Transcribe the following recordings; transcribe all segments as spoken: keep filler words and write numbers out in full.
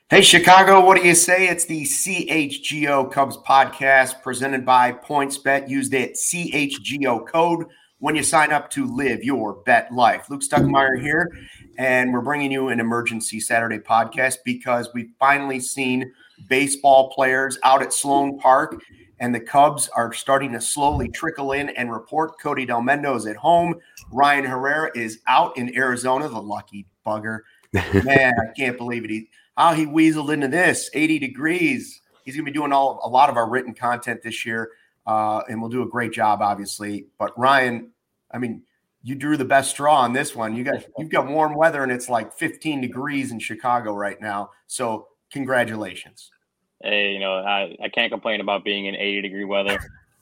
Hey, Chicago, what do you say? It's the C H G O Cubs podcast presented by PointsBet. Use that C H G O code when you sign up to live your bet life. Luke Stuckmeyer here, and we're bringing you an emergency Saturday podcast because we've finally seen baseball players out at Sloan Park, and the Cubs are starting to slowly trickle in and report. Cody Delmendo is at home. Ryan Herrera is out in Arizona, the lucky bugger. Man, I can't believe it. He, how he weaseled into this, eighty degrees. He's going to be doing all a lot of our written content this year, uh, and we'll do a great job, obviously. But Ryan, I mean, you drew the best straw on this one. You got you've got warm weather, and it's like fifteen degrees in Chicago right now. So congratulations. Hey, you know, I, I can't complain about being in eighty degree weather.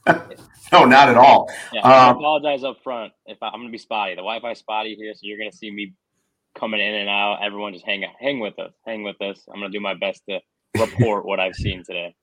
No, not at all. Yeah, I um, apologize up front if I, I'm going to be spotty. The Wi-Fi spotty here, so you're going to see me coming in and out. Everyone just hang hang with us. Hang with us. I'm going to do my best to report what I've seen today.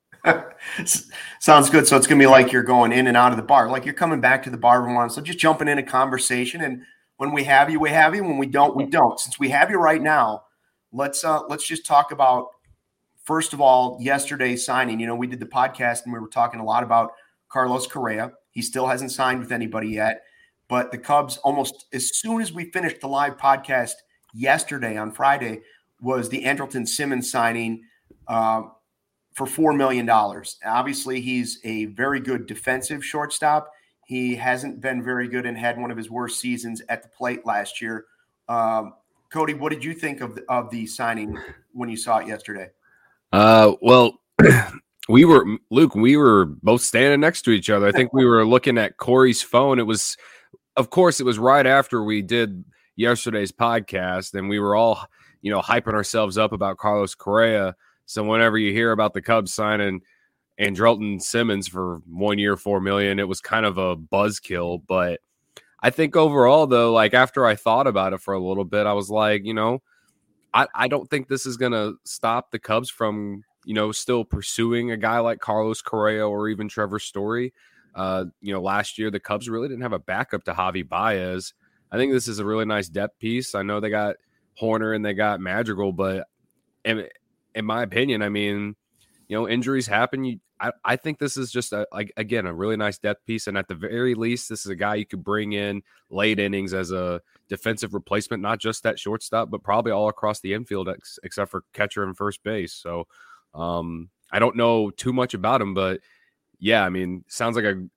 Sounds good. So it's going to be like you're going in and out of the bar, like you're coming back to the bar every once. So just jumping in a conversation, and when we have you, we have you. When we don't, we don't. Since we have you right now, let's uh, let's just talk about, first of all, yesterday's signing. You know, we did the podcast and we were talking a lot about Carlos Correa. He still hasn't signed with anybody yet, but the Cubs, almost as soon as we finished the live podcast yesterday on Friday, was the Andrelton Simmons signing uh, for four million dollars. Obviously, he's a very good defensive shortstop. He hasn't been very good and had one of his worst seasons at the plate last year. Um, Cody, what did you think of the, of the signing when you saw it yesterday? Uh, well, we were, Luke, we were both standing next to each other. I think we were looking at Corey's phone. It was, of course, it was right after we did yesterday's podcast, and we were all, you know, hyping ourselves up about Carlos Correa. So whenever you hear about the Cubs signing Andrelton Simmons for one year, four million, it was kind of a buzzkill. But I think overall, though, like after I thought about it for a little bit, I was like, you know, I, I don't think this is going to stop the Cubs from, you know, still pursuing a guy like Carlos Correa or even Trevor Story. Uh, you know, last year the Cubs really didn't have a backup to Javi Baez. I think this is a really nice depth piece. I know they got Horner and they got Madrigal, but in, in my opinion, I mean, you know, injuries happen. You, I, I think this is just, a, like, again, a really nice depth piece. And at the very least, this is a guy you could bring in late innings as a defensive replacement, not just at shortstop, but probably all across the infield, ex- except for catcher and first base. So um, I don't know too much about him, but yeah, I mean, sounds like a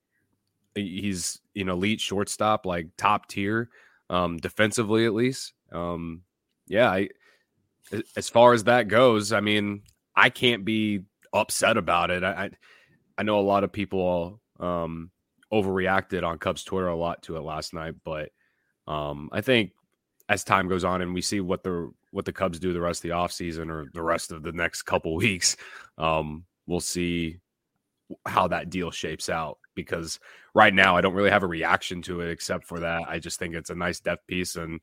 he's an elite shortstop, like top tier, um, defensively at least. Um, yeah, I, as far as that goes, I mean, I can't be upset about it. I, I, I know a lot of people um, overreacted on Cubs Twitter a lot to it last night, but um, I think as time goes on and we see what the what the Cubs do the rest of the offseason or the rest of the next couple weeks, um, we'll see how that deal shapes out, because right now I don't really have a reaction to it except for that I just think it's a nice depth piece, and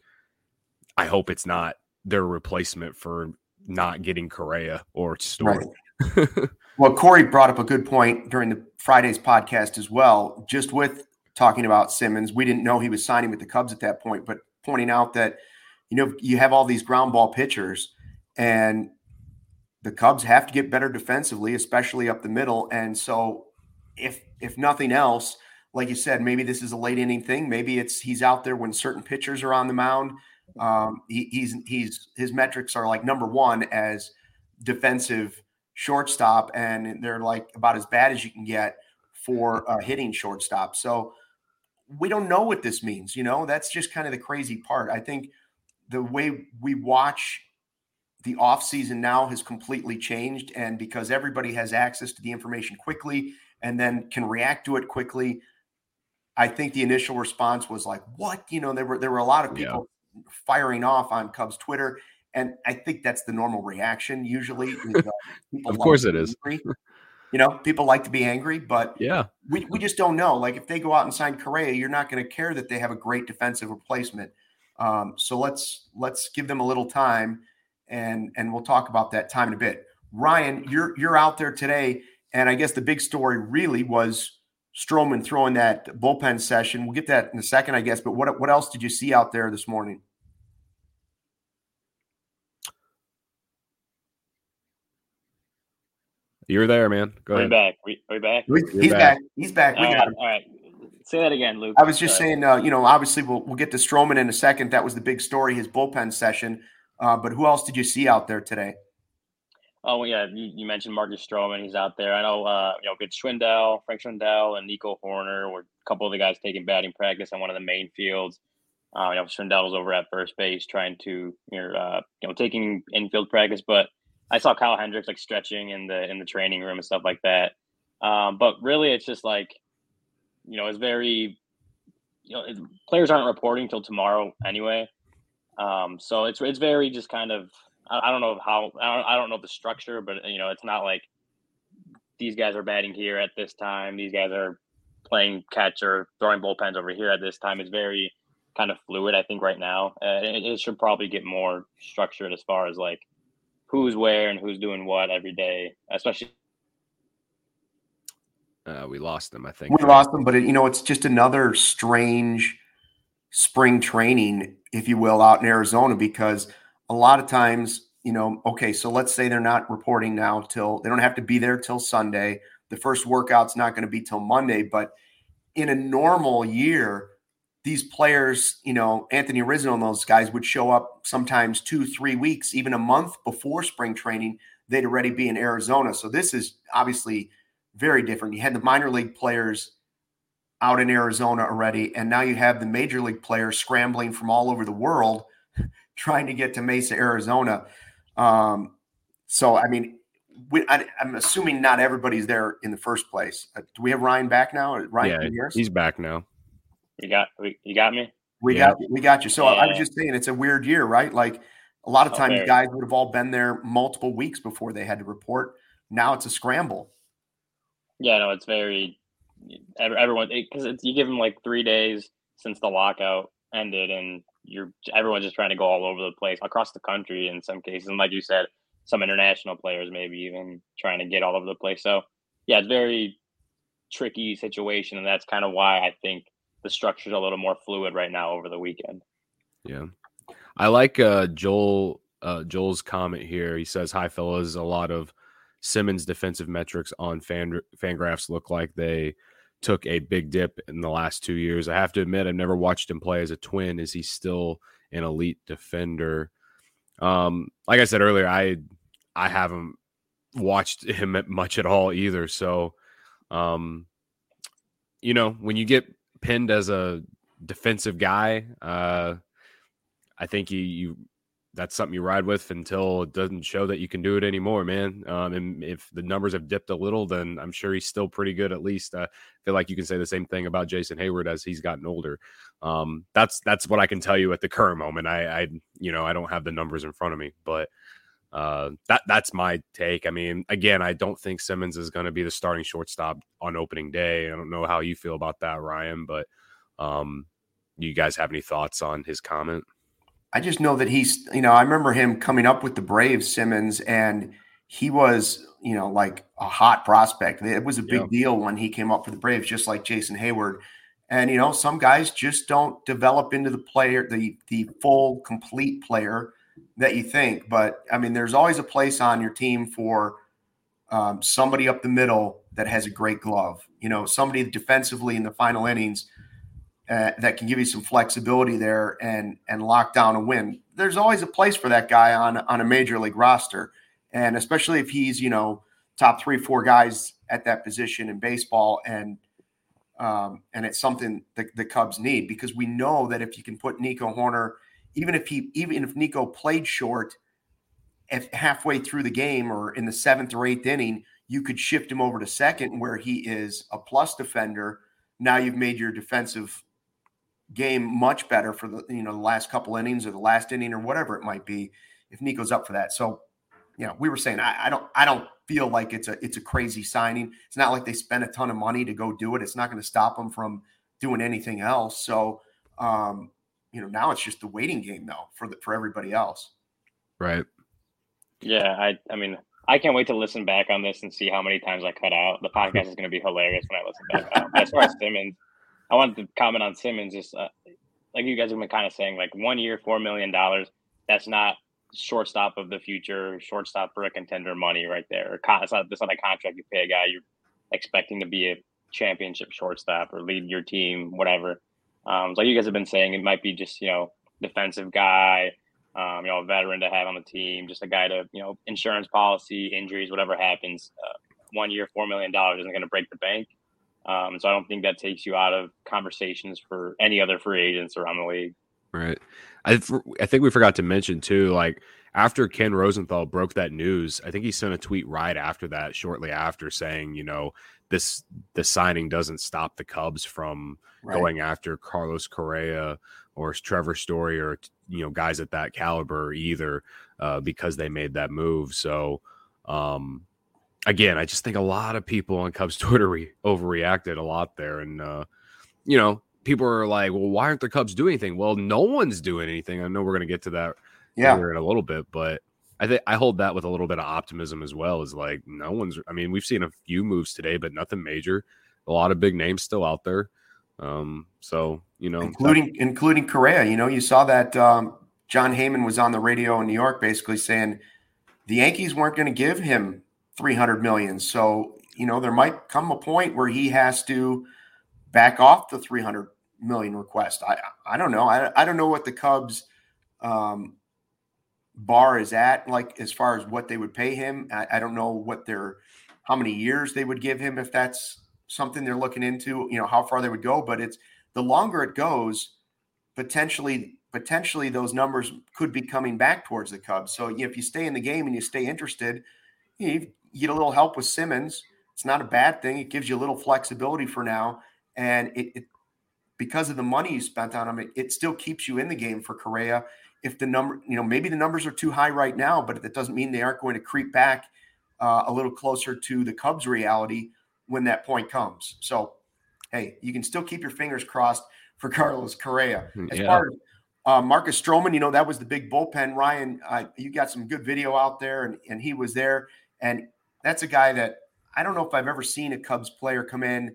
I hope it's not their replacement for not getting Correa or Story. Right. Well, Corey brought up a good point during the Friday's podcast as well, just with talking about Simmons. We didn't know he was signing with the Cubs at that point, but pointing out that, you know, you have all these ground ball pitchers, and the Cubs have to get better defensively, especially up the middle. And so if if nothing else, like you said, maybe this is a late inning thing. Maybe it's he's out there when certain pitchers are on the mound. Um, he, he's he's his metrics are like number one as defensive shortstop, and they're like about as bad as you can get for uh, hitting shortstop. So we don't know what this means. You know, that's just kind of the crazy part. I think the way we watch the offseason now has completely changed, and because everybody has access to the information quickly and then can react to it quickly, I think the initial response was like, what? You know, there were there were a lot of people yeah. firing off on Cubs Twitter, and I think that's the normal reaction usually. Is, uh, of course it is. You know, people like to be angry, but yeah, we, we just don't know. Like if they go out and sign Correa, you're not going to care that they have a great defensive replacement. Um, so let's let's give them a little time. And and we'll talk about that time in a bit. Ryan, you're you're out there today, and I guess the big story really was Stroman throwing that bullpen session. We'll get that in a second, I guess. But what what else did you see out there this morning? You're there, man. Go Are we ahead. back? We, are we back? We, You're he's back. back. He's back. We all got right, him. all right. Say that again, Luke. I was just Sorry. saying, uh, you know, obviously we'll we'll get to Stroman in a second. That was the big story, his bullpen session. Uh, but who else did you see out there today? Oh, well, yeah, you, you mentioned Marcus Stroman. He's out there. I know, uh, you know, good Schwindel, Frank Schwindel, and Nico Horner were a couple of the guys taking batting practice on one of the main fields. Uh, you know, Schwindel was over at first base trying to, you know, uh, you know, taking infield practice. But I saw Kyle Hendricks like stretching in the in the training room and stuff like that. Um, but really, it's just like, you know, it's very, you know, it, players aren't reporting till tomorrow anyway. Um, so it's it's very just kind of, I, I don't know how, I don't, I don't know the structure, but, you know, it's not like these guys are batting here at this time. These guys are playing catch or throwing bullpens over here at this time. It's very kind of fluid, I think, right now. Uh, it, it should probably get more structured as far as like who's where and who's doing what every day, especially. Uh, we lost them, I think. We lost them, but it, you know, it's just another strange spring training, if you will, out in Arizona, because a lot of times, you know, okay, so let's say they're not reporting now till they don't have to be there till Sunday. The first workout's not going to be till Monday, but in a normal year, these players, you know, Anthony Rizzo and those guys would show up sometimes two, three weeks, even a month before spring training. They'd already be in Arizona. So this is obviously very different. You had the minor league players out in Arizona already, and now you have the major league players scrambling from all over the world trying to get to Mesa, Arizona. Um, so, I mean, we, I, I'm assuming not everybody's there in the first place. Uh, do we have Ryan back now? Ryan, yeah, can you hear us? He's back now. You got you got me? We Yeah. got we got you. So Yeah. I was just saying it's a weird year, right? Like a lot of Oh, times very. guys would have all been there multiple weeks before they had to report. Now it's a scramble. Yeah, no, it's very everyone because it, you give them like three days since the lockout ended, and you're everyone's just trying to go all over the place across the country in some cases, and like you said, some international players maybe even trying to get all over the place. So yeah, it's very tricky situation, and that's kind of why I think the structure is a little more fluid right now over the weekend. Yeah, I like uh, Joel uh, Joel's comment here. He says, "Hi, fellas. A lot of Simmons' defensive metrics on fan Fangraphs look like they took a big dip in the last two years. I have to admit, I've never watched him play as a Twin. Is he still an elite defender?" Um, like I said earlier, I I haven't watched him much at all either. So, um, you know, when you get pinned as a defensive guy, uh, I think you, you that's something you ride with until it doesn't show that you can do it anymore, man. Um, and if the numbers have dipped a little, then I'm sure he's still pretty good. At least uh, I feel like you can say the same thing about Jason Hayward as he's gotten older. Um, that's that's what I can tell you at the current moment. I, I you know I don't have the numbers in front of me, but uh, that that's my take. I mean, again, I don't think Simmons is going to be the starting shortstop on opening day. I don't know how you feel about that, Ryan, but um, you guys have any thoughts on his comment? I just know that he's, you know, I remember him coming up with the Braves, Simmons, and he was, you know, like a hot prospect. It was a big Yeah. deal when he came up for the Braves, just like Jason Hayward. And, you know, some guys just don't develop into the player, the the full, complete player that you think. But, I mean, there's always a place on your team for um, somebody up the middle that has a great glove. You know, somebody defensively in the final innings Uh, that can give you some flexibility there and and lock down a win. There's always a place for that guy on on a major league roster, and especially if he's, you know, top three, four guys at that position in baseball, and um, and it's something that the Cubs need, because we know that if you can put Nico Horner, even if he even if Nico played short, if halfway through the game or in the seventh or eighth inning, you could shift him over to second where he is a plus defender. Now you've made your defensive game much better for the, you know, the last couple innings or the last inning or whatever it might be, if Nico's up for that. So, you know, we were saying, I, I don't, I don't feel like it's a, it's a crazy signing. It's not like they spent a ton of money to go do it. It's not going to stop them from doing anything else. So, um, you know, now it's just the waiting game though for the, for everybody else. Right. Yeah. I, I mean, I can't wait to listen back on this and see how many times I cut out. The podcast is going to be hilarious when I listen back on. As far as Simmons, I wanted to comment on Simmons. Just uh, like you guys have been kind of saying, like one year, four million dollars. That's not shortstop of the future, shortstop for a contender money right there. It's not, it's not a contract you pay a guy you're expecting to be a championship shortstop or lead your team, whatever. Um, so like you guys have been saying, it might be just, you know, defensive guy, um, you know, a veteran to have on the team, just a guy to, you know, insurance policy, injuries, whatever happens. Uh, one year, four million dollars isn't going to break the bank. Um, so I don't think that takes you out of conversations for any other free agents around the league. Right. I th- I think we forgot to mention too, like after Ken Rosenthal broke that news, I think he sent a tweet right after that, shortly after, saying, you know, this the signing doesn't stop the Cubs from right. going after Carlos Correa or Trevor Story or, you know, guys at that caliber either, uh, because they made that move. So, um, again, I just think a lot of people on Cubs Twitter re- overreacted a lot there. And, uh, you know, people are like, well, why aren't the Cubs doing anything? Well, no one's doing anything. I know we're going to get to that yeah. later in a little bit, but I think I hold that with a little bit of optimism as well. Is like, no one's, I mean, we've seen a few moves today, but nothing major. A lot of big names still out there. Um, so, you know, including, that, including Correa, you know, you saw that um, John Heyman was on the radio in New York, basically saying the Yankees weren't going to give him three hundred million. So, you know, there might come a point where he has to back off the three hundred million request. I I don't know. I, I don't know what the Cubs um, bar is at, like as far as what they would pay him. I, I don't know what their, how many years they would give him, if that's something they're looking into, you know, how far they would go. But it's the longer it goes, potentially, potentially those numbers could be coming back towards the Cubs. So you know, if you stay in the game and you stay interested, you, you get a little help with Simmons. It's not a bad thing. It gives you a little flexibility for now. And it, it because of the money you spent on him, it, it still keeps you in the game for Correa. If the number, you know, maybe the numbers are too high right now, but that doesn't mean they aren't going to creep back uh, a little closer to the Cubs reality when that point comes. So, hey, you can still keep your fingers crossed for Carlos Correa. As yeah. far as uh, Marcus Stroman, you know, that was the big bullpen. Ryan, uh, you got some good video out there, and, and he was there. And that's a guy that I don't know if I've ever seen a Cubs player come in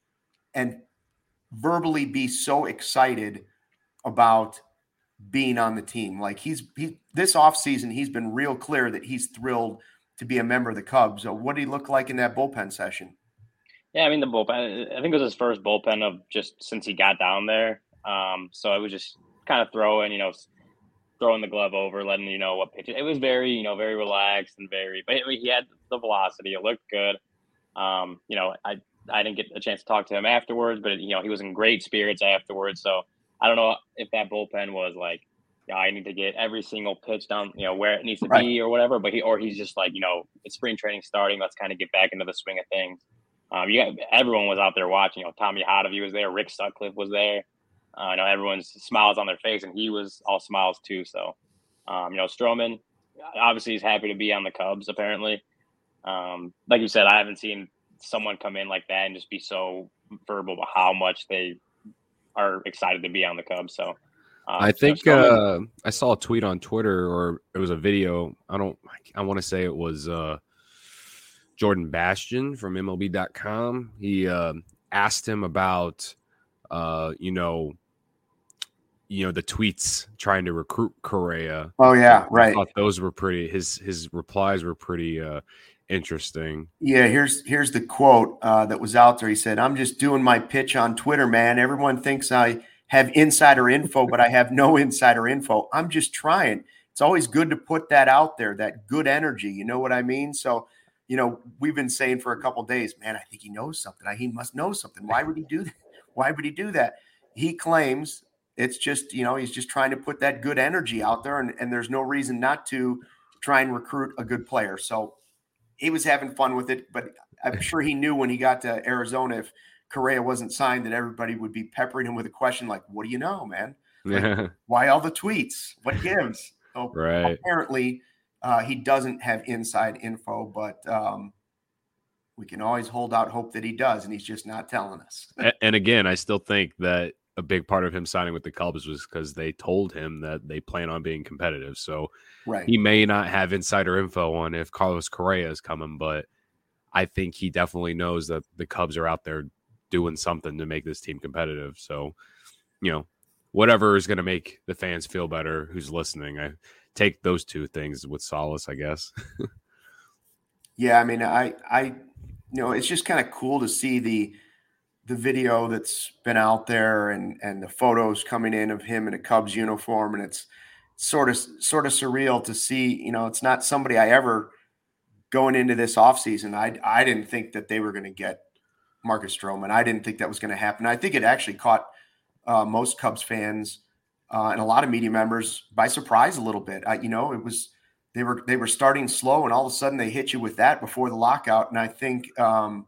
and verbally be so excited about being on the team. Like he's he this offseason, he's been real clear that he's thrilled to be a member of the Cubs. So what did he look like in that bullpen session? Yeah, I mean, the bullpen, I think it was his first bullpen of just since he got down there. Um, so it was just kind of throwing, you know, throwing the glove over, letting you know what pitch. It was very, you know, very relaxed and very, but he had the velocity. It looked good. Um, you know, I, I didn't get a chance to talk to him afterwards, but, you know, he was in great spirits afterwards. So I don't know if that bullpen was like, yeah, I need to get every single pitch down, you know, where it needs to right. be or whatever. But he, or he's just like, you know, it's spring training starting. Let's kind of get back into the swing of things. Um, you got, everyone was out there watching. You know, Tommy Hotovy was there. Rick Sutcliffe was there. Uh, you know, everyone's smiles on their face, and he was all smiles too. So, um, you know, Stroman, obviously, he's happy to be on the Cubs. Apparently, um, like you said, I haven't seen someone come in like that and just be so verbal about how much they are excited to be on the Cubs. So um, I think uh, I saw a tweet on Twitter, or it was a video. I don't, I want to say it was uh, Jordan Bastian from M L B dot com. He uh, asked him about, uh, you know, you know, the tweets trying to recruit Correa. Oh yeah. Right. I thought those were pretty, his, his replies were pretty, uh, interesting. Yeah, here's here's the quote uh, that was out there. He said, "I'm just doing my pitch on Twitter, man. Everyone thinks I have insider info, but I have no insider info. I'm just trying. It's always good to put that out there, that good energy. You know what I mean? So, you know, we've been saying for a couple of days, man, I think he knows something. He must know something. Why would he do that? Why would he do that? He claims it's just, you know, he's just trying to put that good energy out there, and, and there's no reason not to try and recruit a good player. So he was having fun with it, but I'm sure he knew when he got to Arizona, if Correa wasn't signed, that everybody would be peppering him with a question like, what do you know, man? Like, why all the tweets? What gives? So right. Apparently uh, he doesn't have inside info, but um, we can always hold out hope that he does, and he's just not telling us. and, and again, I still think that a big part of him signing with the Cubs was because they told him that they plan on being competitive. So right. he may not have insider info on if Carlos Correa is coming, but I think he definitely knows that the Cubs are out there doing something to make this team competitive. So, you know, whatever is going to make the fans feel better who's listening. I take those two things with solace, I guess. Yeah, I mean, I, I, you know, it's just kind of cool to see the the video that's been out there and and the photos coming in of him in a Cubs uniform, and it's sort of sort of surreal to see. You know, it's not somebody I ever going into this offseason. I I didn't think that they were going to get Marcus Stroman. I didn't think that was going to happen. I think it actually caught uh, most Cubs fans uh, and a lot of media members by surprise a little bit. I, you know, it was they were they were starting slow, and all of a sudden they hit you with that before the lockout. And I think um,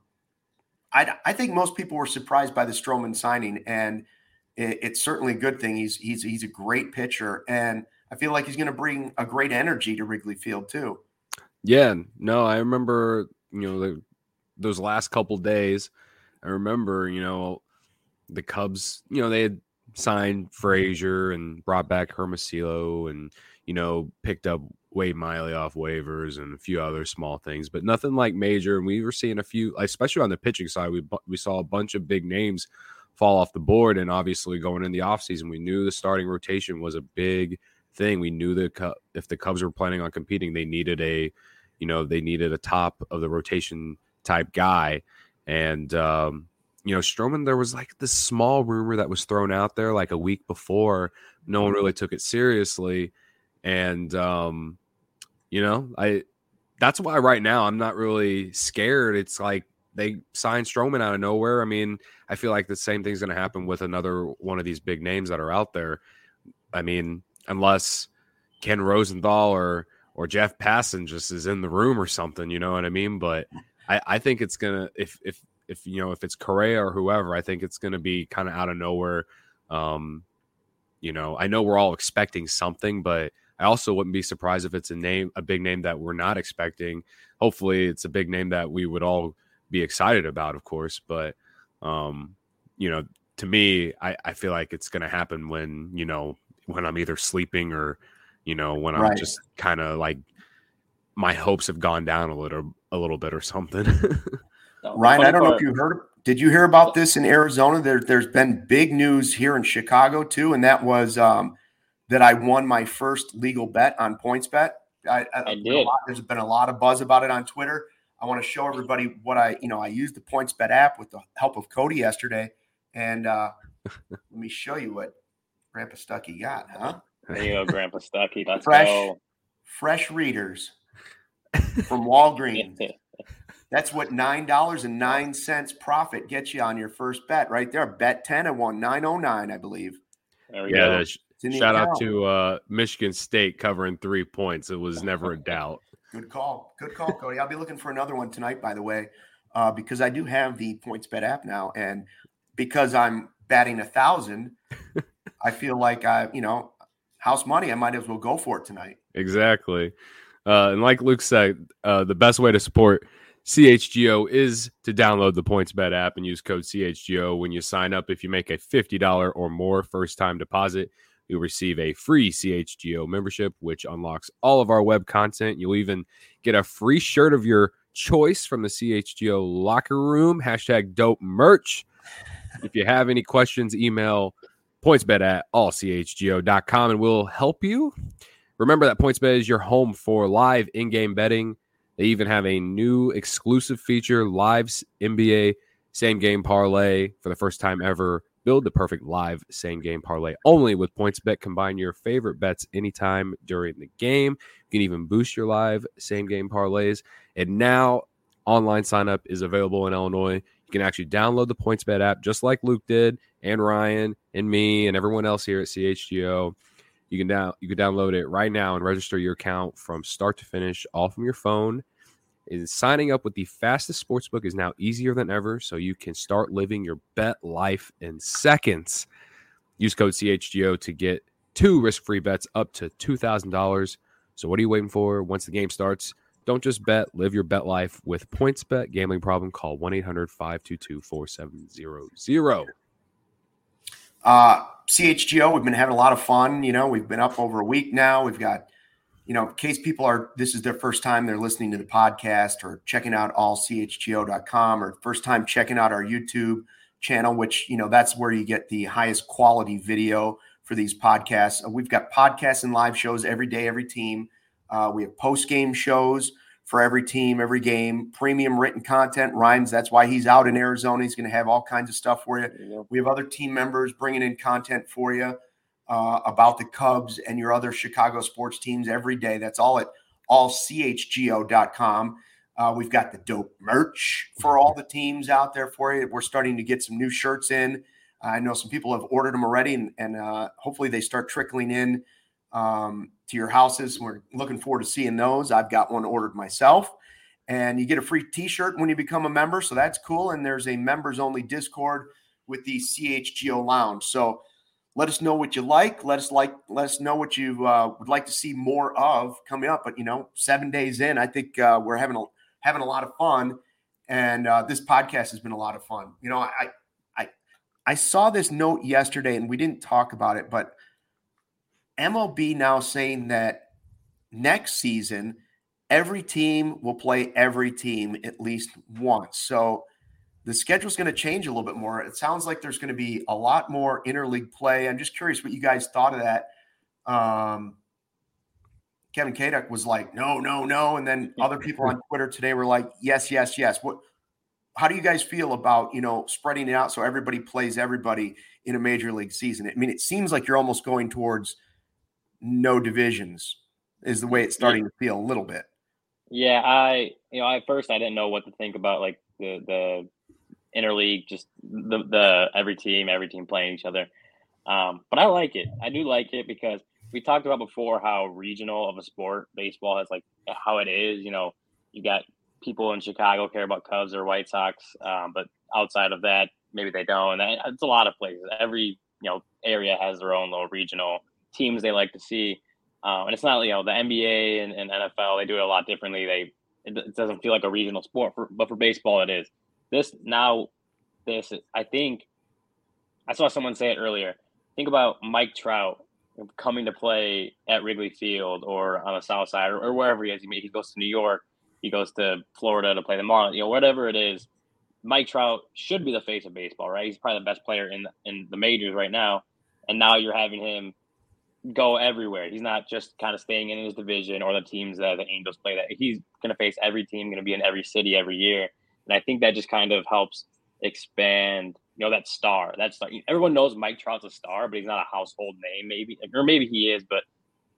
I I think most people were surprised by the Stroman signing, and it, it's certainly a good thing. He's he's he's a great pitcher, and I feel like he's going to bring a great energy to Wrigley Field too. Yeah, no, I remember, you know, the, those last couple days. I remember, you know, the Cubs, you know, they had signed Frazier and brought back Hermosillo and, you know, picked up Wade Miley off waivers and a few other small things, but nothing like major. And we were seeing a few, especially on the pitching side, we we saw a bunch of big names fall off the board. And obviously going in the offseason, we knew the starting rotation was a big thing. We knew that if the Cubs were planning on competing, they needed a, you know, they needed a top of the rotation type guy. And, um, you know, Stroman, there was like this small rumor that was thrown out there like a week before. No one really took it seriously. And, um, you know, I, that's why right now I'm not really scared. It's like they signed Stroman out of nowhere. I mean, I feel like the same thing's going to happen with another one of these big names that are out there. I mean, unless Ken Rosenthal or, or Jeff Passan just is in the room or something, you know what I mean? But I, I think it's going to, if, if, if, you know, if it's Correa or whoever, I think it's going to be kind of out of nowhere. Um, you know, I know we're all expecting something, but I also wouldn't be surprised if it's a name, a big name that we're not expecting. Hopefully it's a big name that we would all be excited about, of course. But, um, you know, to me, I, I feel like it's going to happen when, you know, when I'm either sleeping or, you know, when I'm Right. just kind of like my hopes have gone down a little, a little bit or something. Ryan, I don't know if you heard, did you hear about this in Arizona? There, there's been big news here in Chicago too. And that was um, that I won my first legal bet on PointsBet. I, I, I did. A lot, there's been a lot of buzz about it on Twitter. I want to show everybody what I, you know, I used the PointsBet app with the help of Cody yesterday. And uh, let me show you what Grandpa Stuckey got, huh? There you go, Grandpa Stuckey. Let's fresh, go. Fresh readers from Walgreens. That's what nine dollars and nine cents profit gets you on your first bet right there. Bet ten and won nine oh nine, I believe. There we yeah, go. Sh- shout account. out to uh, Michigan State covering three points. It was never a doubt. Good call. Good call, Cody. I'll be looking for another one tonight, by the way, uh, because I do have the PointsBet app now. And because I'm batting a thousand, I feel like I, you know, house money, I might as well go for it tonight. Exactly. Uh, and like Luke said, uh, the best way to support C H G O is to download the PointsBet app and use code C H G O when you sign up. If you make a fifty dollars or more first-time deposit, you'll receive a free C H G O membership, which unlocks all of our web content. You'll even get a free shirt of your choice from the C H G O locker room. Hashtag dope merch. If you have any questions, email PointsBet at all c h g o dot com and we'll help you. Remember that PointsBet is your home for live in-game betting. They even have a new exclusive feature, live N B A same-game parlay for the first time ever. Build the perfect live same-game parlay only with PointsBet. Combine your favorite bets anytime during the game. You can even boost your live same-game parlays. And now online sign-up is available in Illinois. You can actually download the PointsBet app just like Luke did, and Ryan, and me, and everyone else here at C H G O. You can down you can download it right now and register your account from start to finish, all from your phone. And signing up with the fastest sportsbook is now easier than ever, so you can start living your bet life in seconds. Use code C H G O to get two risk-free bets up to two thousand dollars. So what are you waiting for? Once the game starts, don't just bet, live your bet life with PointsBet. Gambling problem? Call one eight hundred five two two four seven zero zero. Uh, C H G O, we've been having a lot of fun. You know, we've been up over a week now. We've got, you know, in case people are, this is their first time they're listening to the podcast or checking out all c h g o dot com or first time checking out our YouTube channel, which, you know, that's where you get the highest quality video for these podcasts. Uh, we've got podcasts and live shows every day, every team. Uh, we have post-game shows for every team, every game, premium written content. Rhymes, that's why he's out in Arizona. He's going to have all kinds of stuff for you. you we have other team members bringing in content for you uh, about the Cubs and your other Chicago sports teams every day. That's all at all c h g o dot com. Uh, we've got the dope merch for all the teams out there for you. We're starting to get some new shirts in. I know some people have ordered them already, and, and uh, hopefully they start trickling in um, to your houses. We're looking forward to seeing those. I've got one ordered myself, and you get a free t-shirt when you become a member. So that's cool. And there's a members only Discord with the C H G O Lounge. So let us know what you like. Let us like, let us know what you uh, would like to see more of coming up. But, you know, seven days in, I think uh, we're having a, having a lot of fun. And uh, this podcast has been a lot of fun. You know, I, I, I saw this note yesterday and we didn't talk about it, but M L B now saying that next season, every team will play every team at least once. So the schedule is going to change a little bit more. It sounds like there's going to be a lot more interleague play. I'm just curious what you guys thought of that. Um, Kevin Kaduk was like, no, no, no. And then other people on Twitter today were like, yes, yes, yes. What, how do you guys feel about, you know, spreading it out so everybody plays everybody in a major league season? I mean, it seems like you're almost going towards no divisions is the way it's starting to feel a little bit. Yeah. I, you know, at first I didn't know what to think about like the, the interleague, just the, the, every team, every team playing each other. Um, but I like it. I do like it because we talked about before how regional of a sport baseball has, like how it is, you know, you got people in Chicago care about Cubs or White Sox. Um, but outside of that, maybe they don't. And it's a lot of places. Every, you know, area has their own little regional teams they like to see. Um, and it's not, you know, the N B A and, and N F L, they do it a lot differently. They, it, it doesn't feel like a regional sport, for, but for baseball, it is. This now, this, I think, I saw someone say it earlier. Think about Mike Trout coming to play at Wrigley Field or on the South Side or, or wherever he is. He, he goes to New York, he goes to Florida to play the Marlins, you know, whatever it is. Mike Trout should be the face of baseball, right? He's probably the best player in in the majors right now. And now you're having him go everywhere. He's not just kind of staying in his division or the teams that the Angels play. That he's going to face every team, going to be in every city every year. And I think that just kind of helps expand, you know, that star. That's everyone knows Mike Trout's a star, but he's not a household name, maybe, or maybe he is. But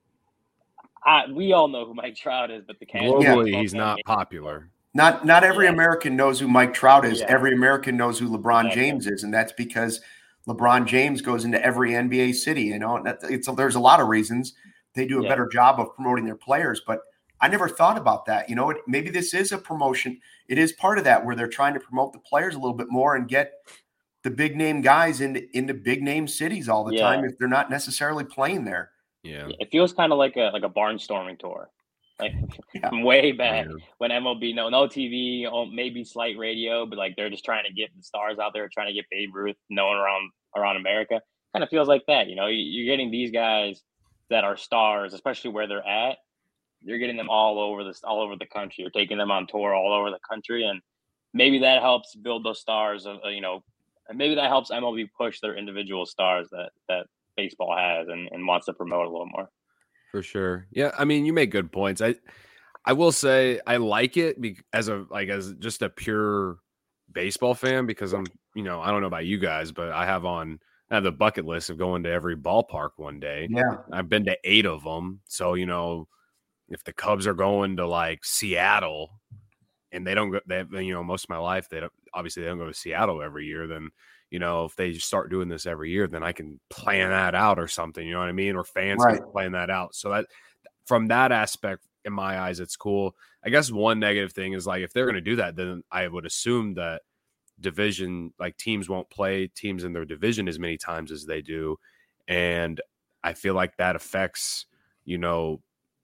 I, we all know who Mike Trout is. But the globally, yeah. he's not popular. Not not every yeah. American knows who Mike Trout is. Yeah. Every American knows who LeBron exactly. James is, and that's because LeBron James goes into every N B A city. You know, that, it's there's a lot of reasons they do a yeah. better job of promoting their players, but I never thought about that. You know, it, maybe this is a promotion. It is part of that where they're trying to promote the players a little bit more and get the big name guys into into big name cities all the yeah. time if they're not necessarily playing there. Yeah, it feels kind of like a like a barnstorming tour, like yeah. from way back yeah. when M L B no no T V, maybe slight radio, but like they're just trying to get the stars out there, trying to get Babe Ruth known around around America. Kind of feels like that, you know. You're getting these guys that are stars, especially where they're at. You're getting them all over this, all over the country. You're taking them on tour all over the country, and maybe that helps build those stars. Of you know, and maybe that helps M L B push their individual stars that that baseball has and, and wants to promote a little more. For sure, yeah. I mean, you make good points. I I will say I like it be, as a like as just a pure baseball fan because I'm you know I don't know about you guys, but I have on. I have the bucket list of going to every ballpark one day. Yeah, I've been to eight of them, so you know. If the Cubs are going to like Seattle and they don't go, they have, you know, most of my life, they don't, obviously they don't go to Seattle every year. Then, you know, if they just start doing this every year, then I can plan that out or something, you know what I mean? Or fans right. can plan that out. So that from that aspect, in my eyes, it's cool. I guess one negative thing is like, if they're going to do that, then I would assume that division, like teams won't play teams in their division as many times as they do. And I feel like that affects, you know,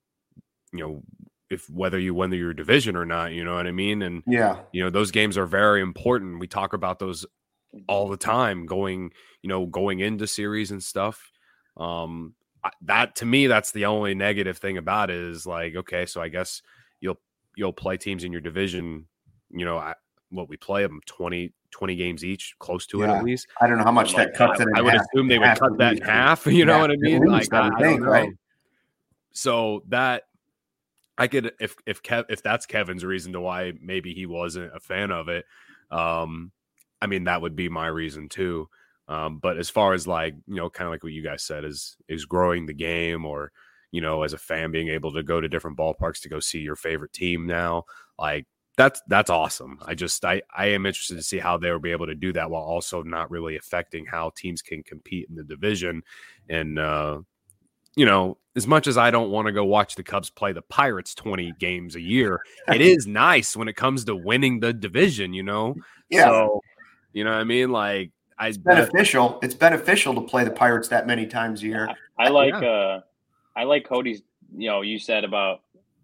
you know, if whether you win your division or not, you know what I mean? And, yeah, you know, those games are very important. We talk about those all the time going, you know, going into series and stuff. Um, that to me, that's the only negative thing about it is like, okay, so I guess you'll, you'll play teams in your division, you know, I, what we play them twenty, twenty games each, close to yeah. it at least. I don't know how much Like that cuts I, it in I would half. assume they would cut that in half. You know yeah, what I mean? Least, like I, I, think, don't know. Right? So that I could, if if Kev, if that's Kevin's reason to why maybe he wasn't a fan of it, um, I mean that would be my reason too. Um, but as far as like you know, kind of like what you guys said is is growing the game, or you know, as a fan being able to go to different ballparks to go see your favorite team now, like that's that's awesome. I just I I am interested to see how they will be able to do that while also not really affecting how teams can compete in the division. And uh, you know, as much as I don't want to go watch the Cubs play the Pirates twenty games a year, it is nice when it comes to winning the division, you know? Yeah. So, you know what I mean? Like, I it's beneficial. It's beneficial to play the Pirates that many times a year. I, I like, yeah. uh, I like Cody's, you know, you said about,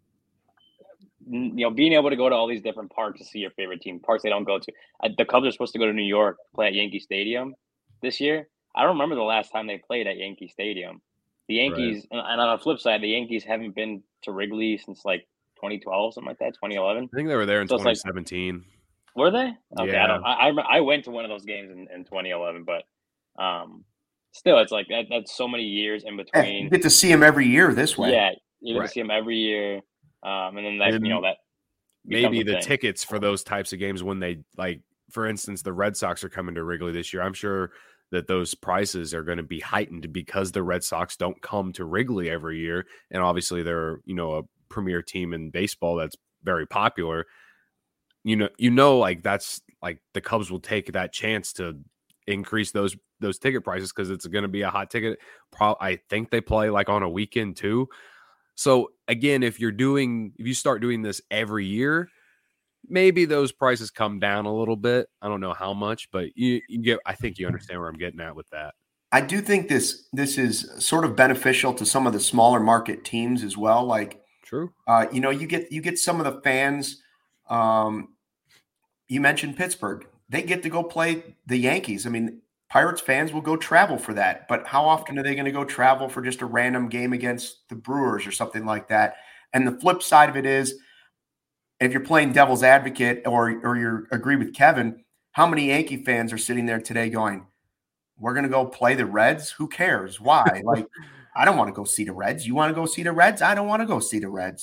you know, being able to go to all these different parks to see your favorite team, parks they don't go to. Uh, the Cubs are supposed to go to New York, play at Yankee Stadium this year. I don't remember the last time they played at Yankee Stadium. The Yankees, right. and on the flip side, the Yankees haven't been to Wrigley since like twenty twelve, something like that, twenty eleven. I think they were there in so twenty seventeen. Like, were they? Okay, yeah. I don't. I, I went to one of those games in, in twenty eleven, but um, still, it's like that. That's so many years in between. Yeah, you get to see them every year this way. Yeah, you get right. to see them every year, um, and then that and you know that maybe the thing. tickets for those types of games when they like, for instance, the Red Sox are coming to Wrigley this year. I'm sure that those prices are going to be heightened because the Red Sox don't come to Wrigley every year. And obviously they're, you know, a premier team in baseball that's very popular. You know, you know, like that's like the Cubs will take that chance to increase those those ticket prices because it's going to be a hot ticket. Pro- I think they play like on a weekend too. So again, if you're doing, if you start doing this every year, maybe those prices come down a little bit. I don't know how much, but you, you get. I think you understand where I'm getting at with that. I do think this this is sort of beneficial to some of the smaller market teams as well. Like, true. Uh, you know, you get you get some of the fans. Um, you mentioned Pittsburgh; they get to go play the Yankees. I mean, Pirates fans will go travel for that. But how often are they going to go travel for just a random game against the Brewers or something like that? And the flip side of it is, if you're playing devil's advocate or or you agree with Kevin, how many Yankee fans are sitting there today going, we're going to go play the Reds? Who cares? Why? Like, I don't want to go see the Reds. You want to go see the Reds? I don't want to go see the Reds.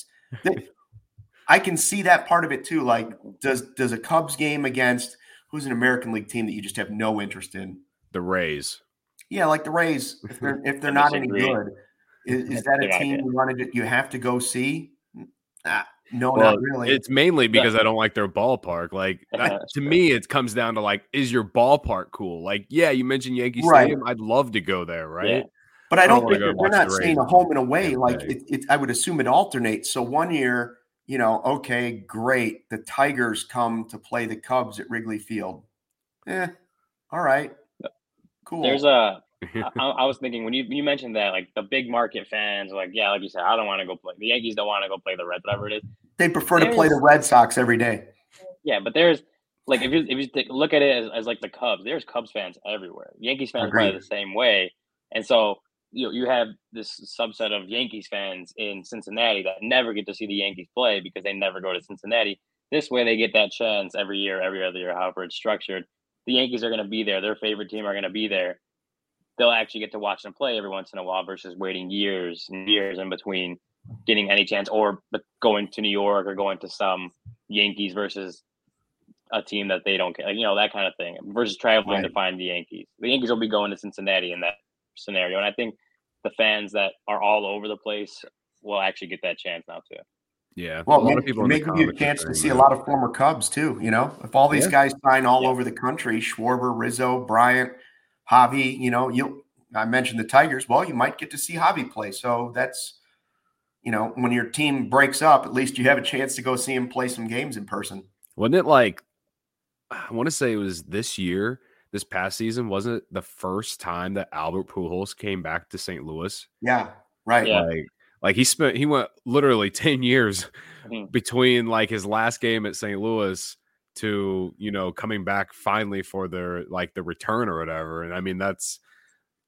I can see that part of it too. Like, does does a Cubs game against who's an American League team that you just have no interest in? The Rays. Yeah, like the Rays. If they're if they're not any good, is, is that a team you wanted to, you have to go see? Nah. No, well, not really. It's mainly because I don't like their ballpark. Like that, to me, it comes down to like, is your ballpark cool? Like, yeah, you mentioned Yankee right. Stadium. I'd love to go there, right? Yeah. But I don't, I don't think they're, they're not saying a home and away. Like it, it, I would assume it alternates. So one year, you know, okay, great. The Tigers come to play the Cubs at Wrigley Field. Eh, all right, cool. There's a. I, I was thinking when you you mentioned that, like the big market fans, like yeah, like you said, I don't want to go play. The Yankees don't want to go play the Reds, whatever it is. They prefer there's, to play the Red Sox every day. Yeah, but there's like if you if you take, look at it as, as like the Cubs, there's Cubs fans everywhere. Yankees fans play the same way, and so you you have this subset of Yankees fans in Cincinnati that never get to see the Yankees play because they never go to Cincinnati. This way, they get that chance every year, every other year, however it's structured. The Yankees are going to be there. Their favorite team are going to be there. They'll actually get to watch them play every once in a while versus waiting years and years in between getting any chance or going to New York or going to some Yankees versus a team that they don't care, like, you know, that kind of thing versus traveling right. to find the Yankees. The Yankees will be going to Cincinnati in that scenario. And I think the fans that are all over the place will actually get that chance now too. Yeah. Well, maybe, maybe give you a chance to see that. a lot of former Cubs too. You know, if all these yeah. guys sign all yeah. over the country, Schwarber, Rizzo, Bryant, Javi, you know, you I mentioned the Tigers. Well, you might get to see Javi play. So that's, you know, when your team breaks up, at least you have a chance to go see him play some games in person. Wasn't it like, I want to say it was this year, this past season, wasn't it the first time that Albert Pujols came back to Saint Louis? Yeah, right. Yeah. Like, like he spent, he went literally ten years mm-hmm. between like his last game at Saint Louis to, you know, coming back finally for their, like the return or whatever. And I mean, that's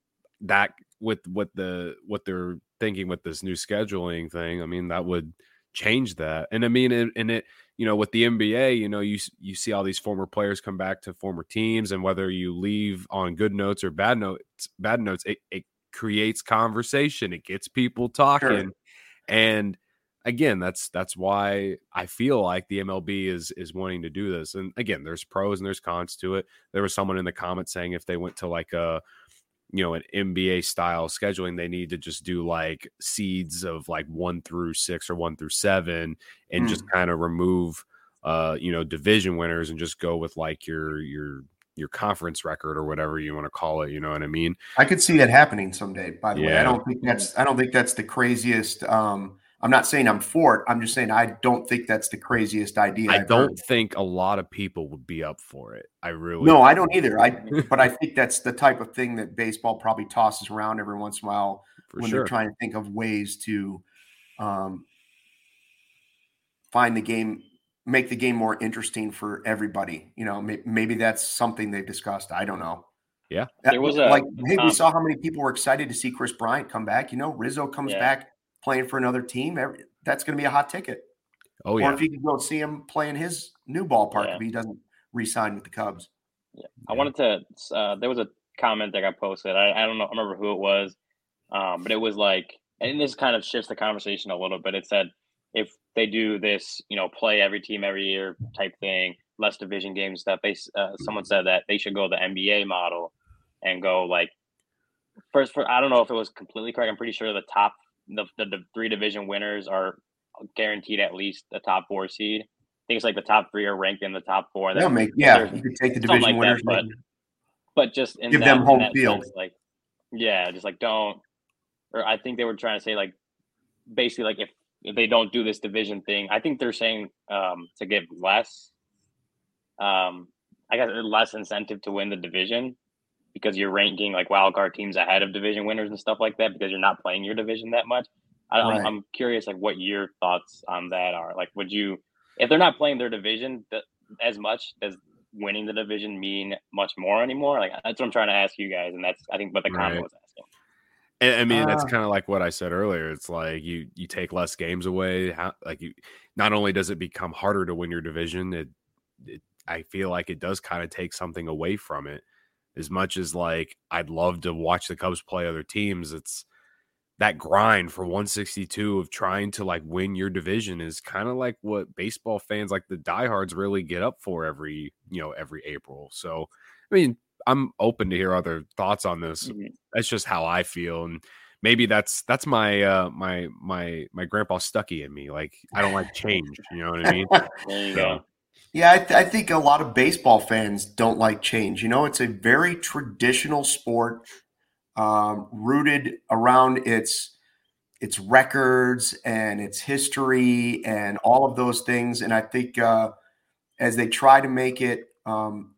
that with what the, what they're thinking with this new scheduling thing. I mean, that would change that. And I mean, and, and it, you know, with the N B A, you know, you you see all these former players come back to former teams, and whether you leave on good notes or bad notes, bad notes, it, it creates conversation. It gets people talking. Sure. And again, that's that's why I feel like the M L B is is wanting to do this. And again, there's pros and there's cons to it. There was someone in the comments saying if they went to like a, you know, an N B A style scheduling, they need to just do like seeds of like one through six or one through seven and mm. just kind of remove, uh, you know, division winners and just go with like your, your, your conference record or whatever you want to call it. You know what I mean? I could see that happening someday, by the yeah. way. I don't think that's, I don't think that's the craziest, um, I'm not saying I'm for it. I'm just saying I don't think that's the craziest idea. I I've don't heard. think a lot of people would be up for it. I really no, I don't either. I but I think that's the type of thing that baseball probably tosses around every once in a while for when sure. they're trying to think of ways to um, find the game, make the game more interesting for everybody. You know, may, maybe that's something they've discussed. I don't know. Yeah, there was a like hey, um, we saw how many people were excited to see Chris Bryant come back. You know, Rizzo comes yeah. back playing for another team. Every, that's going to be a hot ticket. Oh, or yeah. if you can go see him play in his new ballpark yeah. if he doesn't re-sign with the Cubs. Yeah, I yeah. wanted to. Uh, there was a comment that got posted. I, I don't know. I remember who it was, um, but it was like, and this kind of shifts the conversation a little bit. It said if they do this, you know, play every team every year type thing, less division games stuff. They uh, someone said that they should go the N B A model and go like first. For I don't know if it was completely correct. I'm pretty sure the top the the, the three division winners are guaranteed at least the top four seed. I think it's like the top three are ranked in the top four. That make yeah, you could take the division like winners, that, but but just in give that, them home in that field. sense, like yeah, just like don't. Or I think they were trying to say like basically like if, if they don't do this division thing, I think they're saying um, to give less, um, I guess less incentive to win the division because you're ranking like wild card teams ahead of division winners and stuff like that because you're not playing your division that much. I, right. I'm, I'm curious, like, what your thoughts on that are. Like, would you, if they're not playing their division th- as much, does winning the division mean much more anymore? Like, that's what I'm trying to ask you guys, and that's I think what the comment right. was asking. And, I mean, uh, that's kind of like what I said earlier. It's like you you take less games away. How, like you, not only does it become harder to win your division, it, it I feel like it does kind of take something away from it. As much as like I'd love to watch the Cubs play other teams, it's that grind for one sixty-two of trying to like win your division is kind of like what baseball fans like the diehards really get up for every, you know, every April. So, I mean, I'm open to hear other thoughts on this. Mm-hmm. That's just how I feel. And maybe that's, that's my, uh, my, my, my grandpa Stucky in me. Like, I don't like change. You know what I mean? There you so. go. Yeah. I, th- I think a lot of baseball fans don't like change. You know, it's a very traditional sport. Um, rooted around its its records and its history and all of those things. And I think uh, as they try to make it um,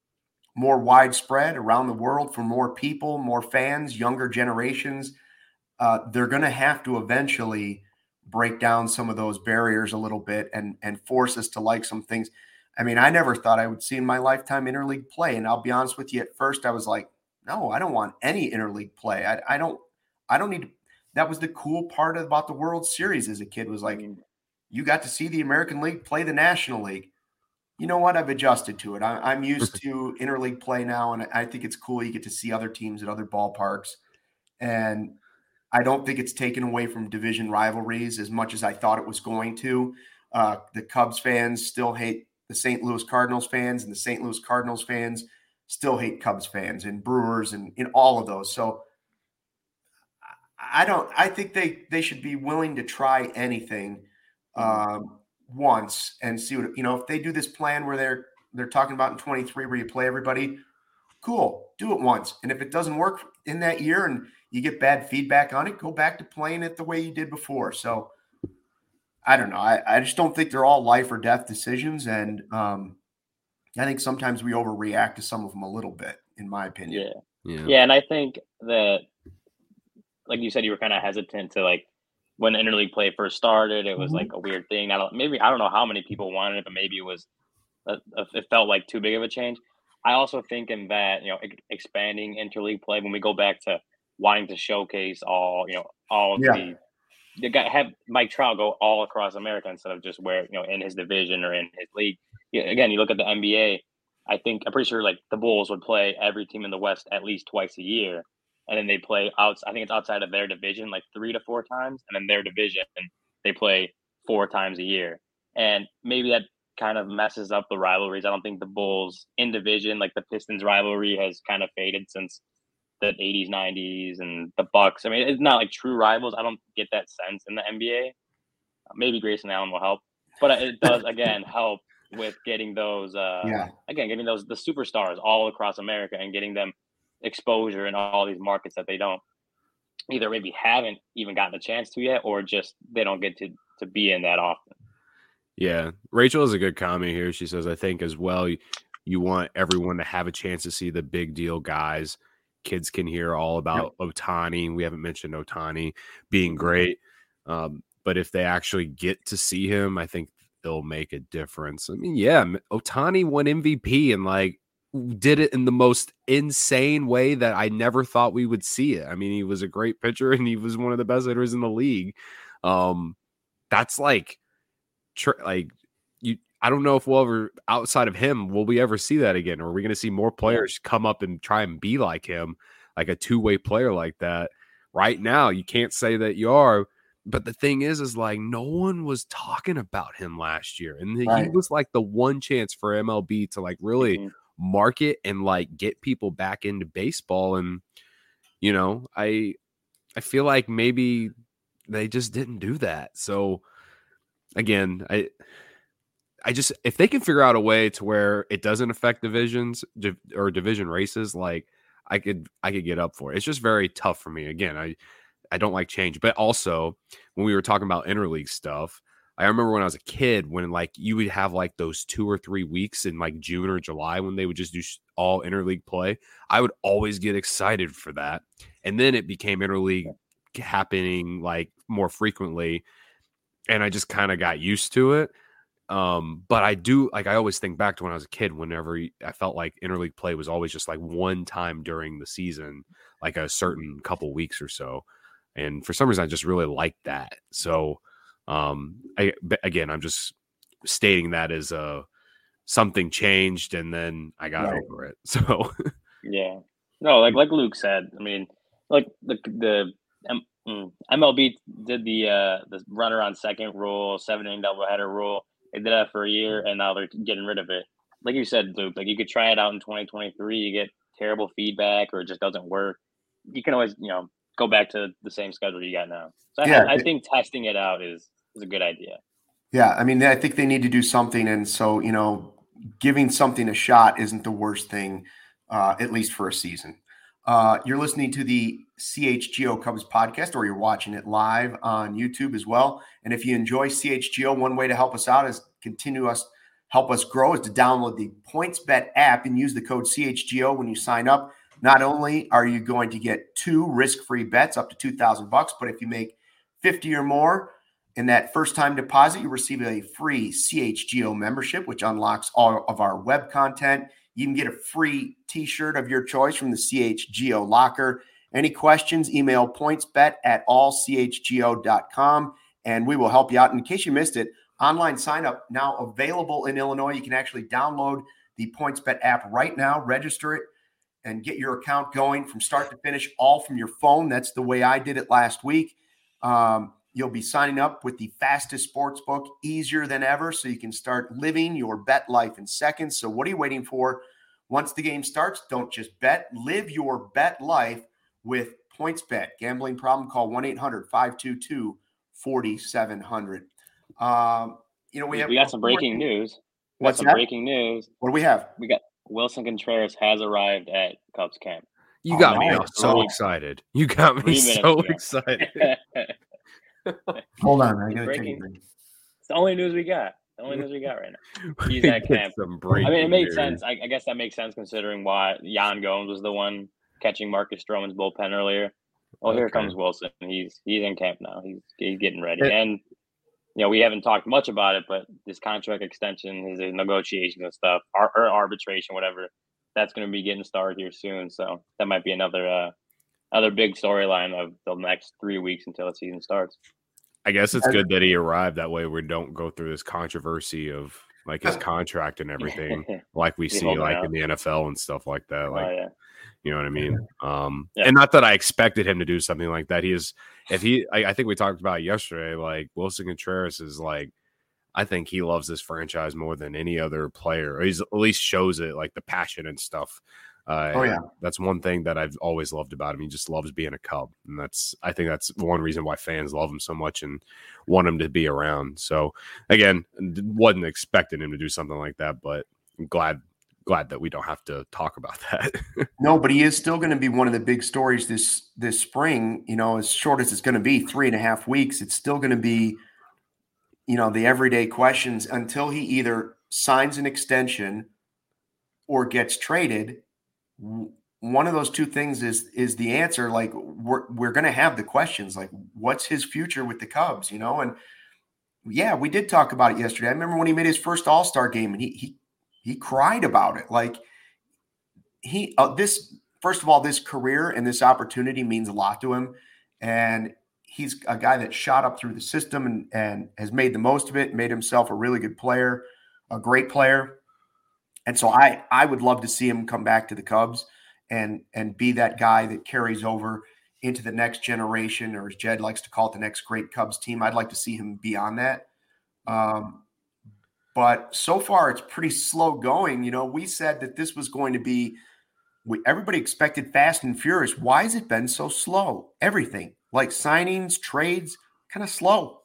more widespread around the world for more people, more fans, younger generations, uh, they're going to have to eventually break down some of those barriers a little bit and and force us to like some things. I mean, I never thought I would see in my lifetime interleague play. And I'll be honest with you, at first I was like, no, I don't want any interleague play. I, I don't, I don't need to. That was the cool part about the World Series as a kid was like, you got to see the American League play the National League. You know what? I've adjusted to it. I, I'm used to interleague play now. And I think it's cool. You get to see other teams at other ballparks. And I don't think it's taken away from division rivalries as much as I thought it was going to. Uh, the Cubs fans still hate the Saint Louis Cardinals fans, and the Saint Louis Cardinals fans still hate Cubs fans and Brewers and in all of those. So I don't, I think they, they should be willing to try anything um, once and see what, you know, if they do this plan where they're, they're talking about in twenty-three, where you play everybody, cool, do it once. And if it doesn't work in that year and you get bad feedback on it, go back to playing it the way you did before. So I don't know. I, I just don't think they're all life or death decisions. And, um, I think sometimes we overreact to some of them a little bit, in my opinion. Yeah. Yeah. Yeah. And I think that, like you said, you were kind of hesitant to like when interleague play first started, it was mm-hmm. like a weird thing. I don't, maybe, I don't know how many people wanted it, but maybe it was, uh, it felt like too big of a change. I also think in that, you know, expanding interleague play, when we go back to wanting to showcase all, you know, all of yeah. the they got have Mike Trout go all across America instead of just where, you know, in his division or in his league. Yeah, again, you look at the N B A. I think I'm pretty sure like the Bulls would play every team in the West at least twice a year, and then they play out. I think it's outside of their division like three to four times, and then their division they play four times a year. And maybe that kind of messes up the rivalries. I don't think the Bulls in division, like the Pistons rivalry, has kind of faded since the eighties, nineties, and the Bucks. I mean, it's not like true rivals. I don't get that sense in the N B A. Maybe Grayson Allen will help, but it does again help with getting those. Uh, Yeah. Again, getting those the superstars all across America and getting them exposure in all these markets that they don't either maybe haven't even gotten a chance to yet, or just they don't get to to be in that often. Yeah, Rachel has a good comment here. She says, I think as well, you, you want everyone to have a chance to see the big deal guys. Kids can hear all about yep. Ohtani. We haven't mentioned Ohtani being great. Um, but if they actually get to see him, I think it'll make a difference. I mean, yeah, Ohtani won M V P and like did it in the most insane way that I never thought we would see it. I mean, he was a great pitcher and he was one of the best hitters in the league. Um, that's like, tr- like you. I don't know if we'll ever, outside of him, will we ever see that again? Or are we going to see more players come up and try and be like him, like a two-way player like that? Right now, you can't say that you are. But the thing is, is like no one was talking about him last year. And right. he was like the one chance for M L B to like really mm-hmm. market and like get people back into baseball. And, you know, I I feel like maybe they just didn't do that. So, again, I – I just, if they can figure out a way to where it doesn't affect divisions div- or division races, like I could, I could get up for it. It's just very tough for me. Again, I, I don't like change, but also when we were talking about interleague stuff, I remember when I was a kid, when like you would have like those two or three weeks in like June or July when they would just do all interleague play. I would always get excited for that. And then it became interleague happening like more frequently. And I just kind of got used to it. Um, but I do like I always think back to when I was a kid, whenever I felt like interleague play was always just like one time during the season, like a certain couple weeks or so. And for some reason, I just really liked that. So, um, I, again, I'm just stating that as a something changed and then I got right. over it. So, yeah, no, like like Luke said, I mean, like the the M- M L B did the uh, the runner on second rule, seven inning doubleheader rule. They did that for a year, and now they're getting rid of it. Like you said, Luke, like you could try it out in twenty twenty-three. You get terrible feedback, or it just doesn't work. You can always, you know, go back to the same schedule you got now. So yeah, I, I think testing it out is is a good idea. Yeah, I mean, I think they need to do something, and so you know, giving something a shot isn't the worst thing, uh, at least for a season. Uh, you're listening to the C H G O Cubs podcast, or you're watching it live on YouTube as well. And if you enjoy C H G O, one way to help us out is continue us, help us grow is to download the PointsBet app and use the code C H G O when you sign up. Not only are you going to get two risk-free bets up to two thousand bucks, but if you make fifty or more in that first-time deposit, you receive a free C H G O membership, which unlocks all of our web content. You can get a free t-shirt of your choice from the C H G O locker. Any questions, email pointsbet at all c h g o dot com, and we will help you out. And in case you missed it, online sign-up now available in Illinois. You can actually download the PointsBet app right now, register it, and get your account going from start to finish, all from your phone. That's the way I did it last week. Um, you'll be signing up with the fastest sports book, easier than ever, so you can start living your bet life in seconds. So what are you waiting for? Once the game starts, don't just bet. Live your bet life with PointsBet. Gambling problem? Call one eight hundred five two two four seven zero zero. Um, you know, we have we got some breaking news. We What's got some that? breaking news. What do we have? We got Wilson Contreras has arrived at Cubs camp. You got oh, me man. so oh. excited. You got me so excited. Hold on, I gotta breaking. take it. It's the only news we got. The only news we got right now. He's at camp. I mean, it made news. sense. I, I guess that makes sense considering why Yan Gomes was the one catching Marcus Stroman's bullpen earlier. Well, okay. Here comes Wilson. He's he's in camp now. He's he's getting ready. It, and you know, we haven't talked much about it, but this contract extension, his negotiations and stuff, or, or arbitration, whatever, that's going to be getting started here soon. So that might be another uh, another big storyline of the next three weeks until the season starts. I guess it's good that he arrived. That way we don't go through this controversy of like his contract and everything, like we see like out. in the N F L and stuff like that. Like, oh, yeah. You know what I mean? Um, yeah. And not that I expected him to do something like that. He is, if he, I, I think we talked about it yesterday, like Willson Contreras is like, I think he loves this franchise more than any other player. Or he's at least shows it, like the passion and stuff. Uh, oh yeah, that's one thing that I've always loved about him. He just loves being a Cub, and that's I think that's one reason why fans love him so much and want him to be around. So again, wasn't expecting him to do something like that, but I'm glad glad that we don't have to talk about that. No, but he is still going to be one of the big stories this this spring. You know, as short as it's going to be, three and a half weeks, it's still going to be, you know, the everyday questions until he either signs an extension or gets traded. One of those two things is is the answer. Like we're we're going to have the questions like, what's his future with the Cubs, you know? And yeah, we did talk about it yesterday. I remember when he made his first All-Star game and he he he cried about it. Like he uh, this first of all, this career and this opportunity means a lot to him, and he's a guy that shot up through the system and and has made the most of it, made himself a really good player, a great player. And so I, I would love to see him come back to the Cubs and and be that guy that carries over into the next generation, or as Jed likes to call it, the next great Cubs team. I'd like to see him beyond that. Um, but so far, it's pretty slow going. You know, we said that this was going to be we, – everybody expected fast and furious. Why has it been so slow? Everything, like signings, trades, kind of slow.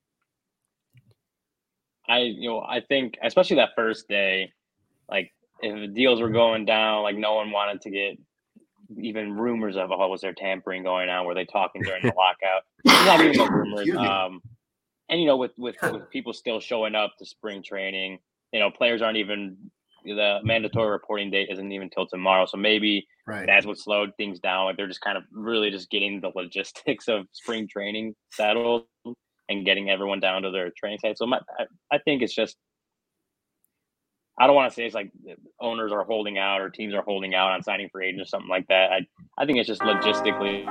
I, you know, I think especially that first day – like if the deals were going down, like no one wanted to get even rumors of, oh, was there tampering going on? Were they talking during the lockout? Not even the rumors. Um, and, you know, with, with, with people still showing up to spring training, you know, players aren't even – the mandatory reporting date isn't even until tomorrow. So maybe right. that's what slowed things down. Like they're just kind of really just getting the logistics of spring training settled and getting everyone down to their training site. So my, I, I think it's just – I don't want to say it's like owners are holding out or teams are holding out on signing free agents or something like that. I I think it's just logistically.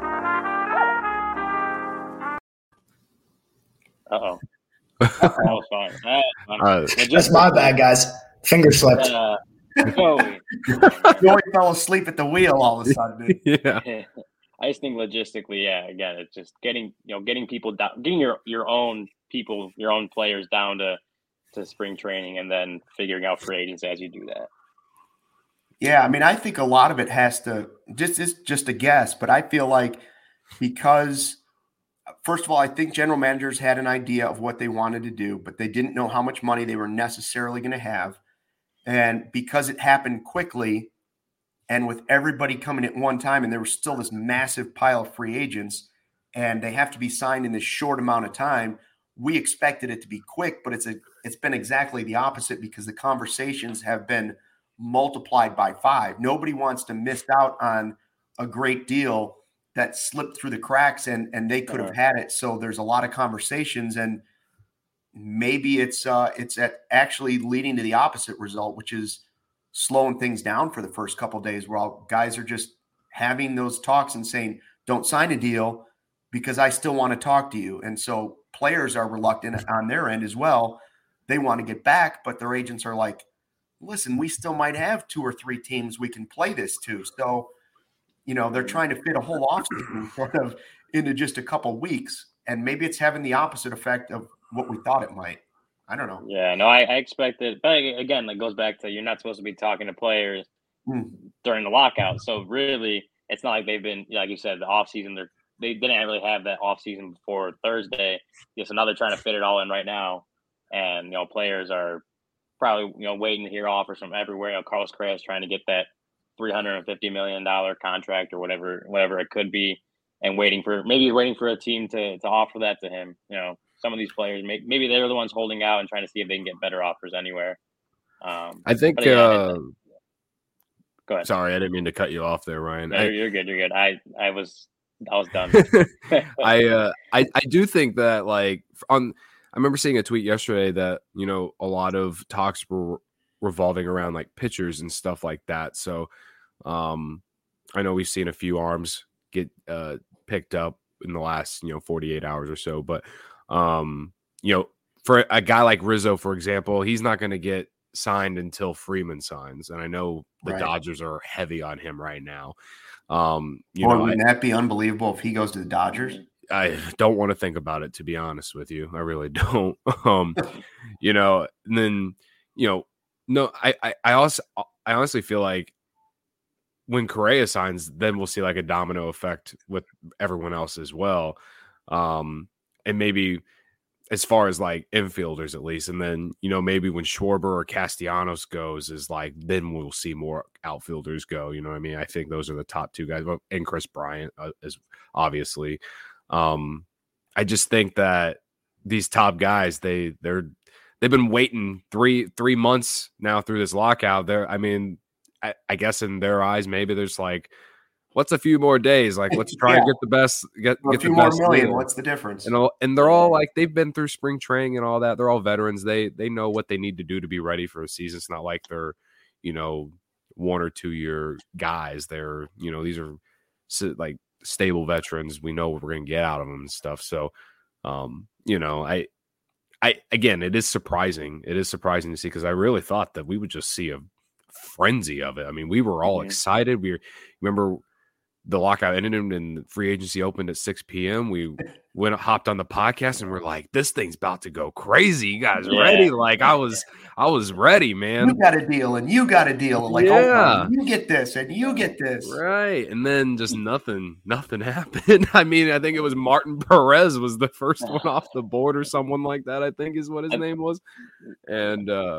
Uh-oh. That was fine. That was fine. Uh, That's my bad, guys. Finger slipped. Uh, Joey. Joey fell asleep at the wheel all of a sudden. Yeah. I just think logistically, yeah, again, it's just getting, you know, getting people down, getting your, your own people, your own players down to, to spring training and then figuring out free agents as you do that. Yeah, I mean, I think a lot of it has to just it's just a guess, but I feel like because first of all, I think general managers had an idea of what they wanted to do, but they didn't know how much money they were necessarily going to have. And because it happened quickly and with everybody coming at one time, and there was still this massive pile of free agents and they have to be signed in this short amount of time, we expected it to be quick, but it's a it's been exactly the opposite because the conversations have been multiplied by five. Nobody wants to miss out on a great deal that slipped through the cracks and, and they could have had it. So there's a lot of conversations, and maybe it's uh, it's at actually leading to the opposite result, which is slowing things down for the first couple of days while guys are just having those talks and saying, don't sign a deal because I still want to talk to you. And so players are reluctant on their end as well. They want to get back, but their agents are like, listen, we still might have two or three teams we can play this to. So, you know, they're trying to fit a whole offseason sort of into just a couple weeks. And maybe it's having the opposite effect of what we thought it might. I don't know. Yeah, no, I, I expected, but again, that goes back to you're not supposed to be talking to players mm. during the lockout. So really, it's not like they've been, like you said, the offseason, they're, they didn't really have that offseason before Thursday. Yes, now they're trying to fit it all in right now. And, you know, players are probably, you know, waiting to hear offers from everywhere. You know, Carlos Correa is trying to get that three hundred fifty million dollars contract or whatever, whatever it could be, and waiting for, maybe waiting for a team to, to offer that to him. You know, some of these players, maybe they're the ones holding out and trying to see if they can get better offers anywhere. Um, I think, yeah, uh, go ahead. Sorry, I didn't mean to cut you off there, Ryan. No, I, you're good. You're good. I, I was, I was done. I, uh, I, I do think that like on, I remember seeing a tweet yesterday that, you know, a lot of talks were revolving around like pitchers and stuff like that. So um, I know we've seen a few arms get uh, picked up in the last, you know, forty-eight hours or so. But, um, you know, for a guy like Rizzo, for example, he's not going to get signed until Freeman signs. And I know the Right. Dodgers are heavy on him right now. Um, you Boy, know, wouldn't I, that be unbelievable if he goes to the Dodgers? I don't want to think about it, to be honest with you. I really don't. Um, you know, and then, you know, no, I, I, I also, I honestly feel like when Correa signs, then we'll see like a domino effect with everyone else as well. Um, and maybe as far as like infielders, at least. And then, you know, maybe when Schwarber or Castellanos goes is like, then we'll see more outfielders go. You know what I mean? I think those are the top two guys, and Chris Bryant uh, is obviously. Um, I just think that these top guys, they they're they've been waiting three three months now through this lockout. They're, I mean, I, I guess in their eyes, maybe there's like, what's a few more days? Like, let's try Yeah. and get the best, get, A get few the more best million. deal. What's the difference? And all, and they're all like, they've been through spring training and all that. They're all veterans. They they know what they need to do to be ready for a season. It's not like they're, you know, one or two year guys. They're, you know, these are like stable veterans. We know what we're going to get out of them and stuff. So, um, you know, I, I, again, it is surprising. It is surprising to see, because I really thought that we would just see a frenzy of it. I mean, we were all Mhm. excited. We remember the lockout ended and free agency opened at six p.m. We went hopped on the podcast and we're like, this thing's about to go crazy. You guys Yeah. ready? Like I was, I was ready, man. You got a deal, and you got a deal, and like, Yeah. oh, you get this, and you get this. Right. And then just nothing, nothing happened. I mean, I think it was Martin Perez was the first one off the board or someone like that, I think is what his name was. And uh,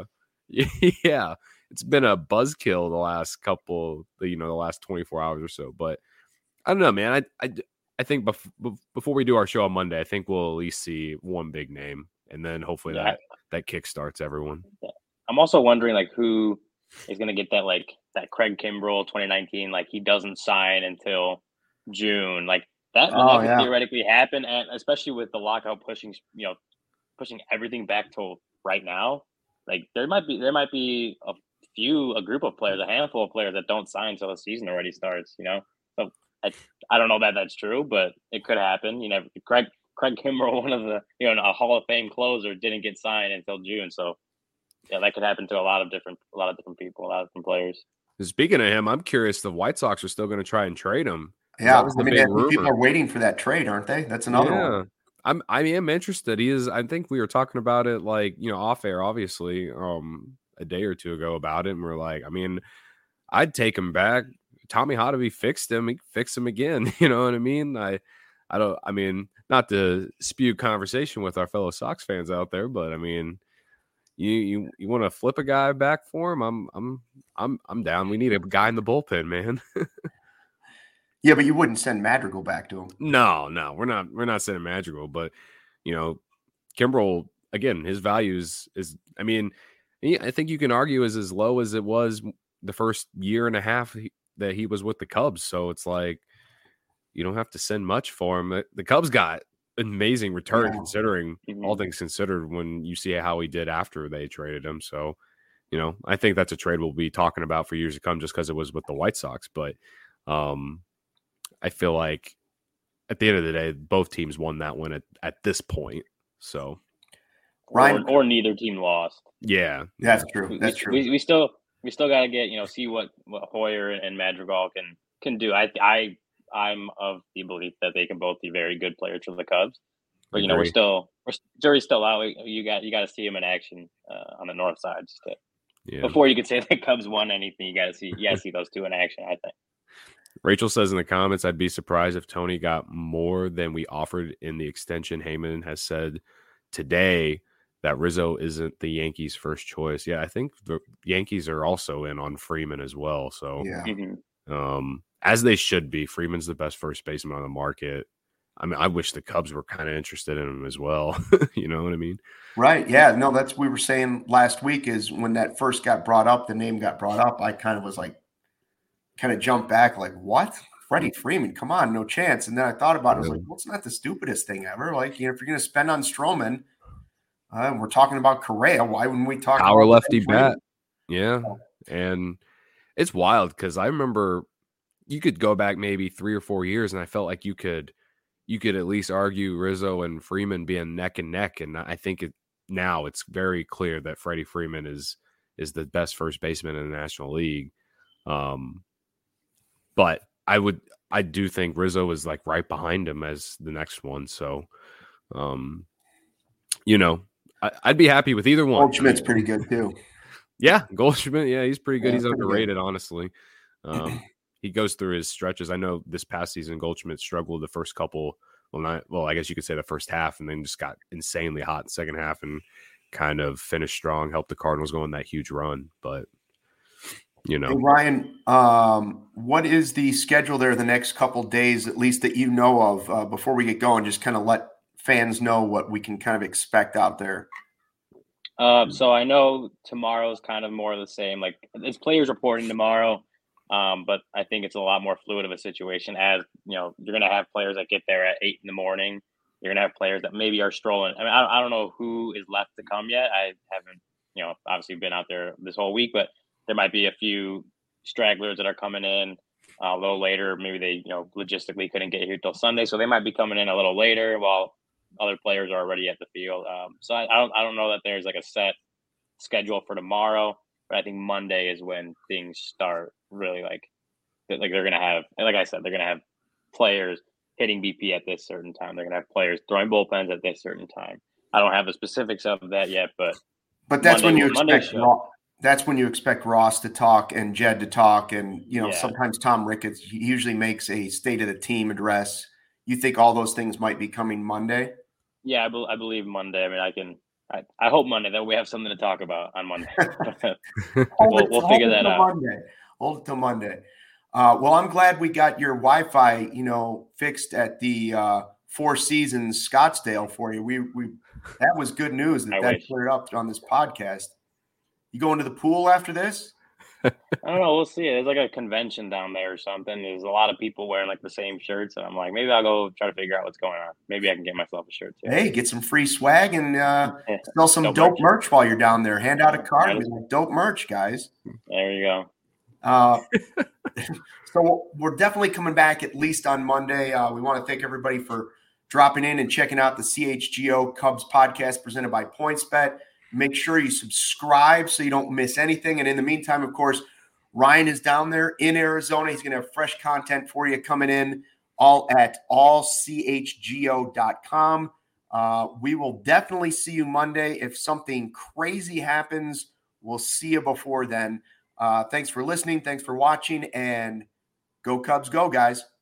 yeah, it's been a buzzkill the last couple, you know, the last twenty-four hours or so. But I don't know, man. I I, I think bef- before we do our show on Monday, I think we'll at least see one big name, and then hopefully Yeah. that that kickstarts everyone. I'm also wondering like who is going to get that like that Craig Kimbrell twenty nineteen, like he doesn't sign until June. Like that, Oh, that could yeah. theoretically happen, and especially with the lockout pushing, you know, pushing everything back till right now. Like there might be there might be a few, a group of players, a handful of players that don't sign until the season already starts. You know, so I I don't know that that's true, but it could happen. You know, Craig Craig Kimbrell, one of the you know a Hall of Fame closer, didn't get signed until June. So yeah, that could happen to a lot of different a lot of different people, a lot of different players. Speaking of him, I'm curious the White Sox are still going to try and trade him. Yeah, That was the I mean, big I think people rumor. are waiting for that trade, aren't they? That's another yeah. one. I'm I am interested. He is. I think we were talking about it like you know off air, obviously, um, a day or two ago about it, and we're like, I mean, I'd take him back. Tommy Hotovy fixed him. He fixed him again. You know what I mean? I, I don't. I mean, not to spew conversation with our fellow Sox fans out there, but I mean, you you you want to flip a guy back for him? I'm I'm I'm I'm down. We need a guy in the bullpen, man. Yeah, but you wouldn't send Madrigal back to him. No, no, we're not. We're not sending Madrigal, but you know, Kimbrel again. His values is. I mean, he, I think you can argue is as low as it was the first year and a half he, that he was with the Cubs. So it's like you don't have to send much for him. The Cubs got amazing return Yeah. considering Mhm. all things considered when you see how he did after they traded him. So you know, I think that's a trade we'll be talking about for years to come, just because it was with the White Sox, but. um I feel like at the end of the day, both teams won that one at, at this point. So, Ryan- or, or neither team lost. yeah. That's true. We, That's we, true. We, we still we still got to get you know see what, what Hoyer and Madrigal can can do. I I I'm of the belief that they can both be very good players for the Cubs. But you know we're Agree. still we're jury's still out. You got you got to see them in action uh, on the north side just to, Yeah. before you could say the Cubs won anything. You got to see you got to see those two in action. I think. Rachel says in the comments, I'd be surprised if Tony got more than we offered in the extension. Heyman has said today that Rizzo isn't the Yankees' first choice. Yeah, I think the Yankees are also in on Freeman as well. So, Yeah. Mhm. um, as they should be, Freeman's the best first baseman on the market. I mean, I wish the Cubs were kind of interested in him as well. You know what I mean? Right. Yeah. No, that's we were saying last week is when that first got brought up, the name got brought up. I kind of was like, kind of jumped back, like, what? Freddie Freeman? Come on, no chance. And then I thought about it. I was like, well, it's not the stupidest thing ever. Like, you know, if you're going to spend on Stroman, uh, we're talking about Correa. Why wouldn't we talk Power about lefty Freeman? bat. Yeah. And it's wild because I remember you could go back maybe three or four years and I felt like you could you could at least argue Rizzo and Freeman being neck and neck. And I think it, now it's very clear that Freddie Freeman is is the best first baseman in the National League. Um, but I would, I do think Rizzo is like right behind him as the next one. So, um, you know, I, I'd be happy with either one. Goldschmidt's pretty good too. Yeah, Goldschmidt. Yeah, he's pretty good. Yeah, he's pretty underrated, good. honestly. Um, he goes through his stretches. I know this past season Goldschmidt struggled the first couple. Well, not well. I guess you could say the first half, and then just got insanely hot in the second half, and kind of finished strong. Helped the Cardinals go on that huge run. But you know, hey, Ryan, um, what is the schedule there the next couple days, at least that you know of, uh, before we get going? Just kind of let fans know what we can kind of expect out there. Uh, so I know tomorrow's kind of more of the same. Like it's players reporting tomorrow, um, but I think it's a lot more fluid of a situation. As you know, you're going to have players that get there at eight in the morning. You're going to have players that maybe are strolling. I mean, I, I don't know who is left to come yet. I haven't, you know, obviously been out there this whole week, but there might be a few stragglers that are coming in uh, a little later. Maybe they, you know, logistically couldn't get here till Sunday, so they might be coming in a little later while other players are already at the field. Um, so I, I don't, I don't know that there's like a set schedule for tomorrow, but I think Monday is when things start really like, like they're gonna have, and like I said, they're gonna have players hitting B P at this certain time. They're gonna have players throwing bullpens at this certain time. I don't have the specifics of that yet, but but that's Monday, when you Monday expect Ross, that's when you expect Ross to talk and Jed to talk, and you know yeah. sometimes Tom Ricketts he usually makes a state of the team address. You think all those things might be coming Monday? Yeah, I, be- I believe Monday. I mean, I can. I, I hope Monday that we have something to talk about on Monday. we'll, we'll figure that out. Monday. Hold it till Monday. Uh, well, I'm glad we got your Wi-Fi, you know, fixed at the uh, Four Seasons Scottsdale for you. We we that was good news that I that wish. cleared up on this podcast. You going to the pool after this? I don't know. We'll see. There's like a convention down there or something. There's a lot of people wearing like the same shirts, and I'm like, maybe I'll go try to figure out what's going on. Maybe I can get myself a shirt too. Hey, get some free swag and uh, sell some dope, dope merch. merch while you're down there. Hand out a card and be like, dope merch, guys. There you go. Uh, so we're definitely coming back at least on Monday. Uh, we want to thank everybody for dropping in and checking out the C H G O Cubs podcast presented by PointsBet. Make sure you subscribe so you don't miss anything. And in the meantime, of course, Ryan is down there in Arizona. He's going to have fresh content for you coming in all at all c h g o dot com. Uh, we will definitely see you Monday. If something crazy happens, we'll see you before then. Uh, thanks for listening. Thanks for watching. And go Cubs, go, guys.